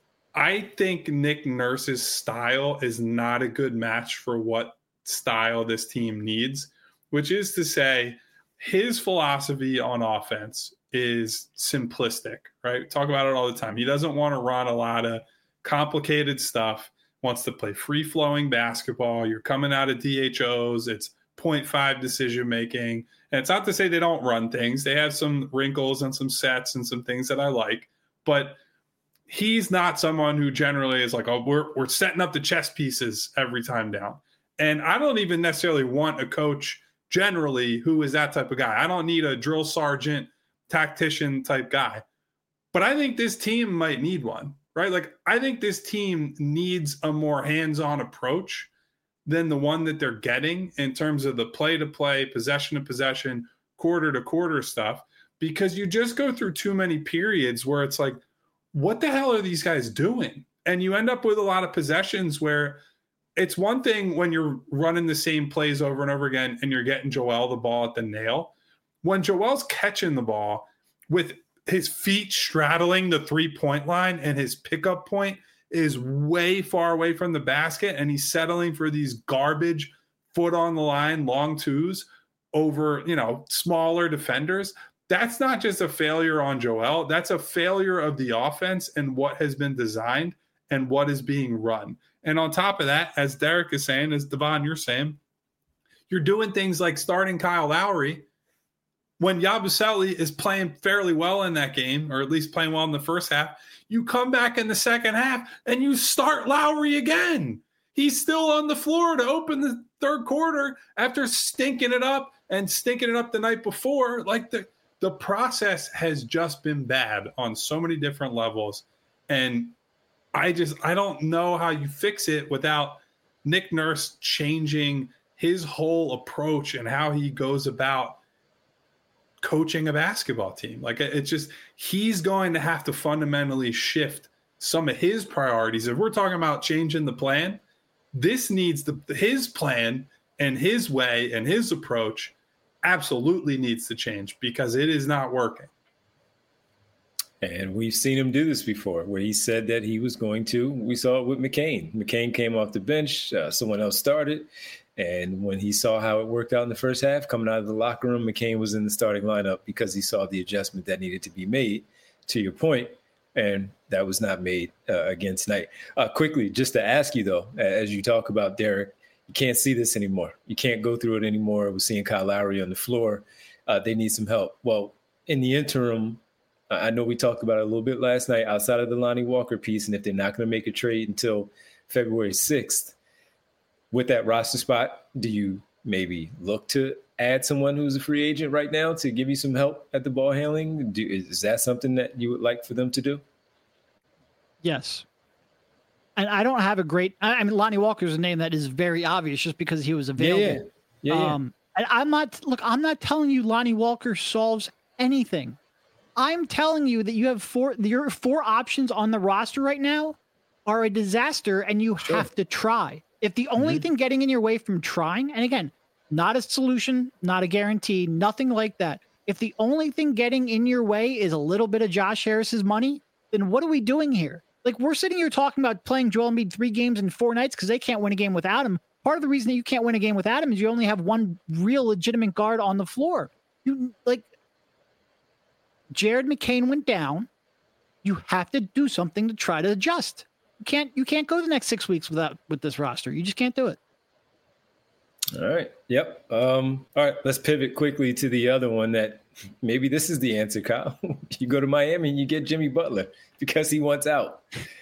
I think Nick Nurse's style is not a good match for what style this team needs, which is to say his philosophy on offense is simplistic, right? We talk about it all the time. He doesn't want to run a lot of complicated stuff, wants to play free-flowing basketball. You're coming out of D H Os. It's point five decision-making. And it's not to say they don't run things. They have some wrinkles and some sets and some things that I like. But he's not someone who generally is like, oh, we're, we're setting up the chess pieces every time down. And I don't even necessarily want a coach generally who is that type of guy. I don't need a drill sergeant, tactician type guy. But I think this team might need one, right? Like, I think this team needs a more hands-on approach than the one that they're getting in terms of the play-to-play, possession-to-possession, quarter-to-quarter stuff, because you just go through too many periods where it's like, what the hell are these guys doing? And you end up with a lot of possessions where it's one thing when you're running the same plays over and over again and you're getting Joel the ball at the nail. When Joel's catching the ball with his feet straddling the three-point line and his pickup point is way far away from the basket and he's settling for these garbage foot on the line, long twos over, you know, smaller defenders, that's not just a failure on Joel. That's a failure of the offense and what has been designed and what is being run. And on top of that, as Derek is saying, as Devon, you're saying, you're doing things like starting Kyle Lowry when Yabusele is playing fairly well in that game, or at least playing well in the first half. You come back in the second half and you start Lowry again. He's still on the floor to open the third quarter after stinking it up and stinking it up the night before. Like the, the process has just been bad on so many different levels. And I just, I don't know how you fix it without Nick Nurse changing his whole approach and how he goes about coaching a basketball team. Like, it's just, he's going to have to fundamentally shift some of his priorities. If we're talking about changing the plan, this needs the, his plan and his way and his approach absolutely needs to change because it is not working. And we've seen him do this before where he said that he was going to. We saw it with McCain. McCain came off the bench. Uh, someone else started. And when he saw how it worked out in the first half, coming out of the locker room, McCain was in the starting lineup because he saw the adjustment that needed to be made, to your point, and that was not made uh, again tonight. Uh, quickly, just to ask you, though, as you talk about Derek, you can't see this anymore. You can't go through it anymore. We're seeing Kyle Lowry on the floor. Uh, they need some help. Well, in the interim, I know we talked about it a little bit last night outside of the Lonnie Walker piece, and if they're not going to make a trade until February sixth, with that roster spot, do you maybe look to add someone who's a free agent right now to give you some help at the ball handling? Do, is that something that you would like for them to do? Yes. And I don't have a great, I mean, Lonnie Walker is a name that is very obvious just because he was available. Yeah, yeah. yeah, yeah. Um, and I'm not, look, I'm not telling you Lonnie Walker solves anything. I'm telling you that you have four, your four options on the roster right now are a disaster and you sure. have to try. If the only mm-hmm. thing getting in your way from trying, and again, not a solution, not a guarantee, nothing like that. If the only thing getting in your way is a little bit of Josh Harris's money, then what are we doing here? Like, we're sitting here talking about playing Joel Embiid three games in four nights because they can't win a game without him. Part of the reason that you can't win a game without him is you only have one real legitimate guard on the floor. You like Jared McCain went down. You have to do something to try to adjust. You can't you can't go the next six weeks without with this roster. You just can't do it. All right. Yep. Um, all right. Let's pivot quickly to the other one that maybe this is the answer, Kyle. You go to Miami and you get Jimmy Butler because he wants out.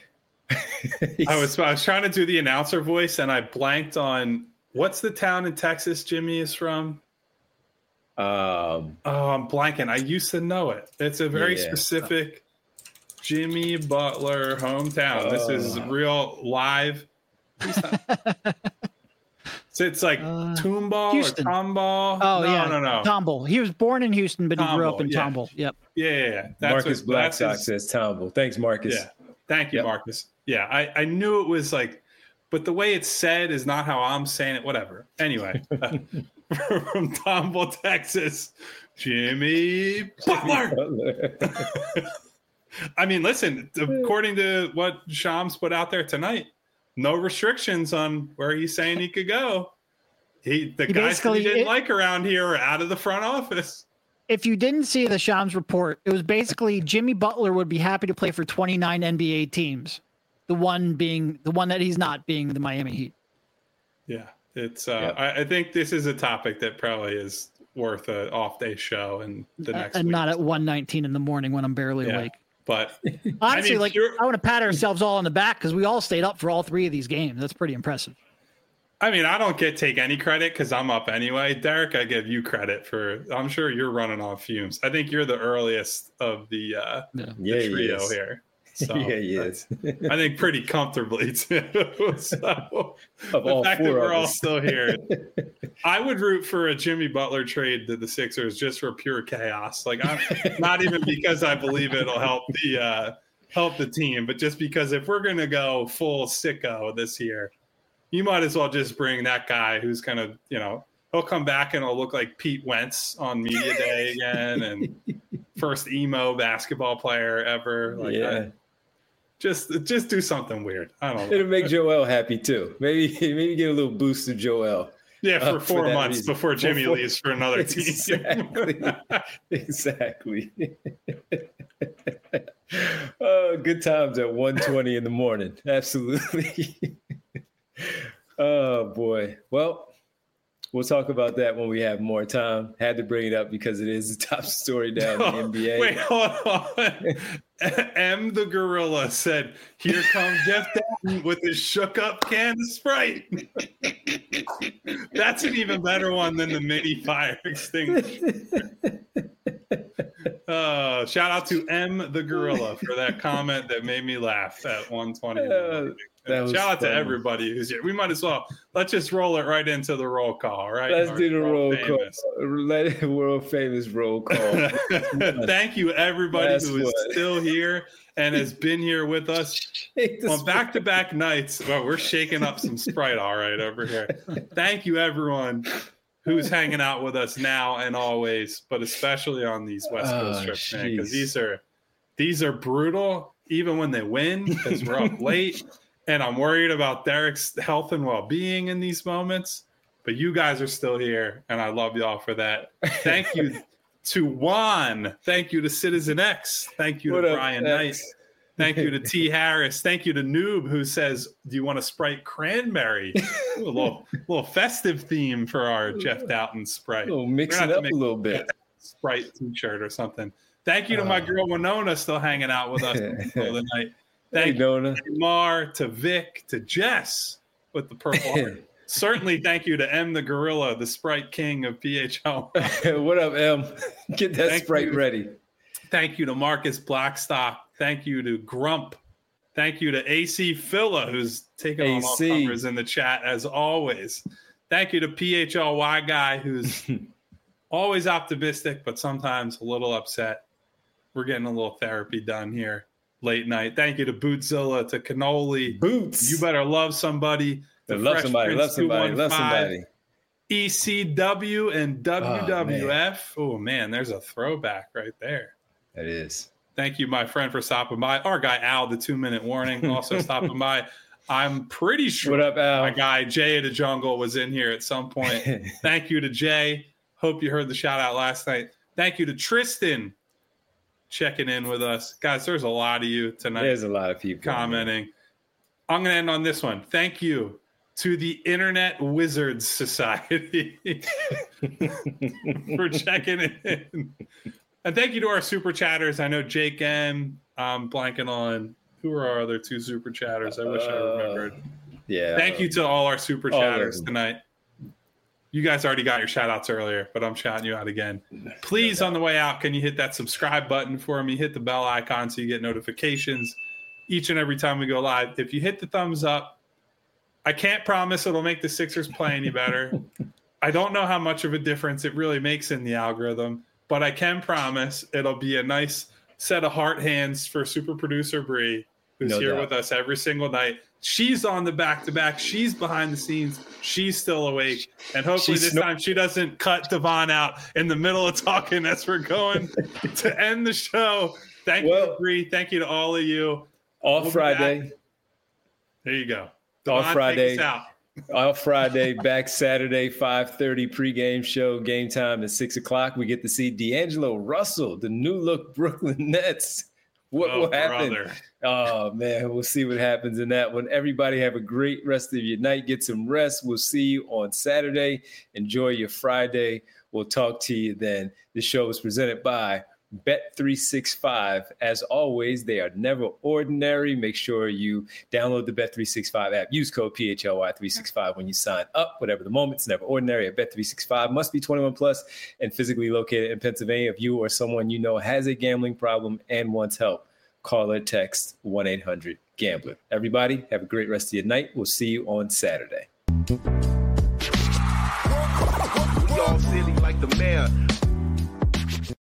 I was I was trying to do the announcer voice and I blanked on what's the town in Texas Jimmy is from? Um, oh, I'm blanking. I used to know it. It's a very yeah. specific Jimmy Butler hometown. Uh, this is real live. It's So it's like Uh, Tomball Houston. or Tomball. Oh, no, yeah. no, no. Tomball. He was born in Houston, but he grew up Tomball, in yeah. Tomball. Yep. Yeah, yeah, yeah. That's Marcus what, Black that's Sox his- says Tomball. Thanks, Marcus. Yeah. Thank you, Yep. Marcus. Yeah, I, I knew it was like, but the way it's said is not how I'm saying it. Whatever. Anyway, uh, from Tomball, Texas, Jimmy Butler. I mean, listen, according to what Shams put out there tonight, no restrictions on where he's saying he could go. He the He guys that he basically- didn't it- like around here are out of the front office. If you didn't see the Shams report, it was basically Jimmy Butler would be happy to play for twenty-nine N B A teams. The one being the one that he's not being the Miami Heat. Yeah, it's. Uh, Yep. I, I think this is a topic that probably is worth an off-day show and the next and week. not at one nineteen in the morning when I'm barely Yeah. awake. But Honestly, mean, like pure- I want to pat ourselves all on the back because we all stayed up for all three of these games. That's pretty impressive. I mean, I don't get take any credit because I'm up anyway. Derek, I give you credit for. I'm sure you're running on fumes. I think you're the earliest of the, uh, Yeah. the Yeah, he trio is. here. So, yeah, he is. I think pretty comfortably too. So Of the all fact four that we're of all us. still here, I would root for a Jimmy Butler trade to the Sixers just for pure chaos. Like, I'm not even because I believe it'll help the uh, help the team, but just because if we're gonna go full sicko this year, you might as well just bring that guy who's gonna, you know, he'll come back and it'll look like Pete Wentz on media day again, and first emo basketball player ever. Like, yeah. I, just just do something weird. I don't know. It'll make Joel happy too. Maybe maybe get a little boost to Joel. Yeah, for Uh, for four that months reason. before Jimmy Before- leaves for another team. Exactly. Exactly. Oh, good times at one twenty in the morning. Absolutely. Oh boy. Well, we'll talk about that when we have more time. Had to bring it up because it is the top story down in the N B A. Wait, hold on. M the Gorilla said, "Here comes Jeff Dowden with his shook up can of Sprite." That's an even better one than the mini fire extinguisher. Uh, shout out to M the Gorilla for that comment that made me laugh at one twenty. Uh, that was shout out to funny. everybody who's here. We might as well let's just roll it right into the roll call, right? Let's Our do the roll world famous. call. Let it world famous roll call. Thank you, everybody That's who is what. still here and has been here with us on back-to-back nights. Well, we're shaking up some Sprite, all right, over here. Thank you, everyone who's hanging out with us now and always, but especially on these West Coast Oh, trips, man, because jeez. these are these are brutal, even when they win, because we're up late, and I'm worried about Derek's health and well-being in these moments. But you guys are still here, and I love y'all for that. Thank you to Juan. Thank you to Citizen X. Thank you What to up, Brian X? Knight. Thank you to T. Harris. Thank you to Noob, who says, "Do you want a Sprite cranberry?" Ooh, a little, little festive theme for our Jeff Doughton Sprite. We'll mix We're it gonna have up to a make little bit. Sprite T-shirt or something. Thank you to my Oh. girl Winona, still hanging out with us until the night. Hey, Thank you Nona. to Mar, to Vic, to Jess with the purple heart. Certainly, thank you to M the Gorilla, the Sprite King of P H L. What up, Em? Get that Thank Sprite you. ready. Thank you to Marcus Blackstock. Thank you to Grump. Thank you to A C Phila, who's taking on all A C. comers in the chat as always. Thank you to P H L Y Guy, who's always optimistic, but sometimes a little upset. We're getting a little therapy done here late night. Thank you to Bootzilla, to Cannoli. Boots. You better love somebody. To love Fresh somebody. Prince Love somebody. Love two one five, somebody. E C W and W W F. Oh, man, there's a throwback right there. That is. Thank you, my friend, for stopping by. Our guy Al, the two-minute warning, also stopping by. I'm pretty sure What up, Al? my guy Jay of the Jungle was in here at some point. Thank you to Jay. Hope you heard the shout out last night. Thank you to Tristan checking in with us. Guys, there's a lot of you tonight There's a lot of people commenting. I'm going to end on this one. Thank you to the Internet Wizards Society for checking in. And thank you to our super chatters. I know Jake M. I'm blanking on who are our other two super chatters. I wish I Uh, remembered. Yeah. Thank you to all our super All of chatters them. tonight. You guys already got your shout outs earlier, but I'm shouting you out again. Please, on the way out, can you hit that subscribe button for me? Hit the bell icon so you get notifications each and every time we go live. If you hit the thumbs up, I can't promise it'll make the Sixers play any better. I don't know how much of a difference it really makes in the algorithm, but I can promise it'll be a nice set of heart hands for super producer Bree, who's no here doubt. with us every single night. She's on the back-to-back. She's behind the scenes. She's still awake. And hopefully She's this snor- time she doesn't cut Devon out in the middle of talking as we're going to end the show. Thank well, you, Bree. Thank you to all of you. All we'll Friday. There you go. Devon, all Friday. All Friday, back Saturday, five thirty pregame show. Game time at six o'clock. We get to see D'Angelo Russell, the new look Brooklyn Nets. What oh, will happen? Brother. Oh, man, we'll see what happens in that one. Everybody have a great rest of your night. Get some rest. We'll see you on Saturday. Enjoy your Friday. We'll talk to you then. The show is presented by Bet three sixty-five. As always, they are never ordinary. Make sure you download the Bet three sixty-five app. Use code P H L Y three sixty-five when you sign up. Whatever the moment, it's never ordinary at Bet three sixty-five. Must be twenty-one plus and physically located in Pennsylvania. If you or someone you know has a gambling problem and wants help, call or text one eight hundred gambler. Everybody, have a great rest of your night. We'll see you on Saturday. We all silly like the mayor.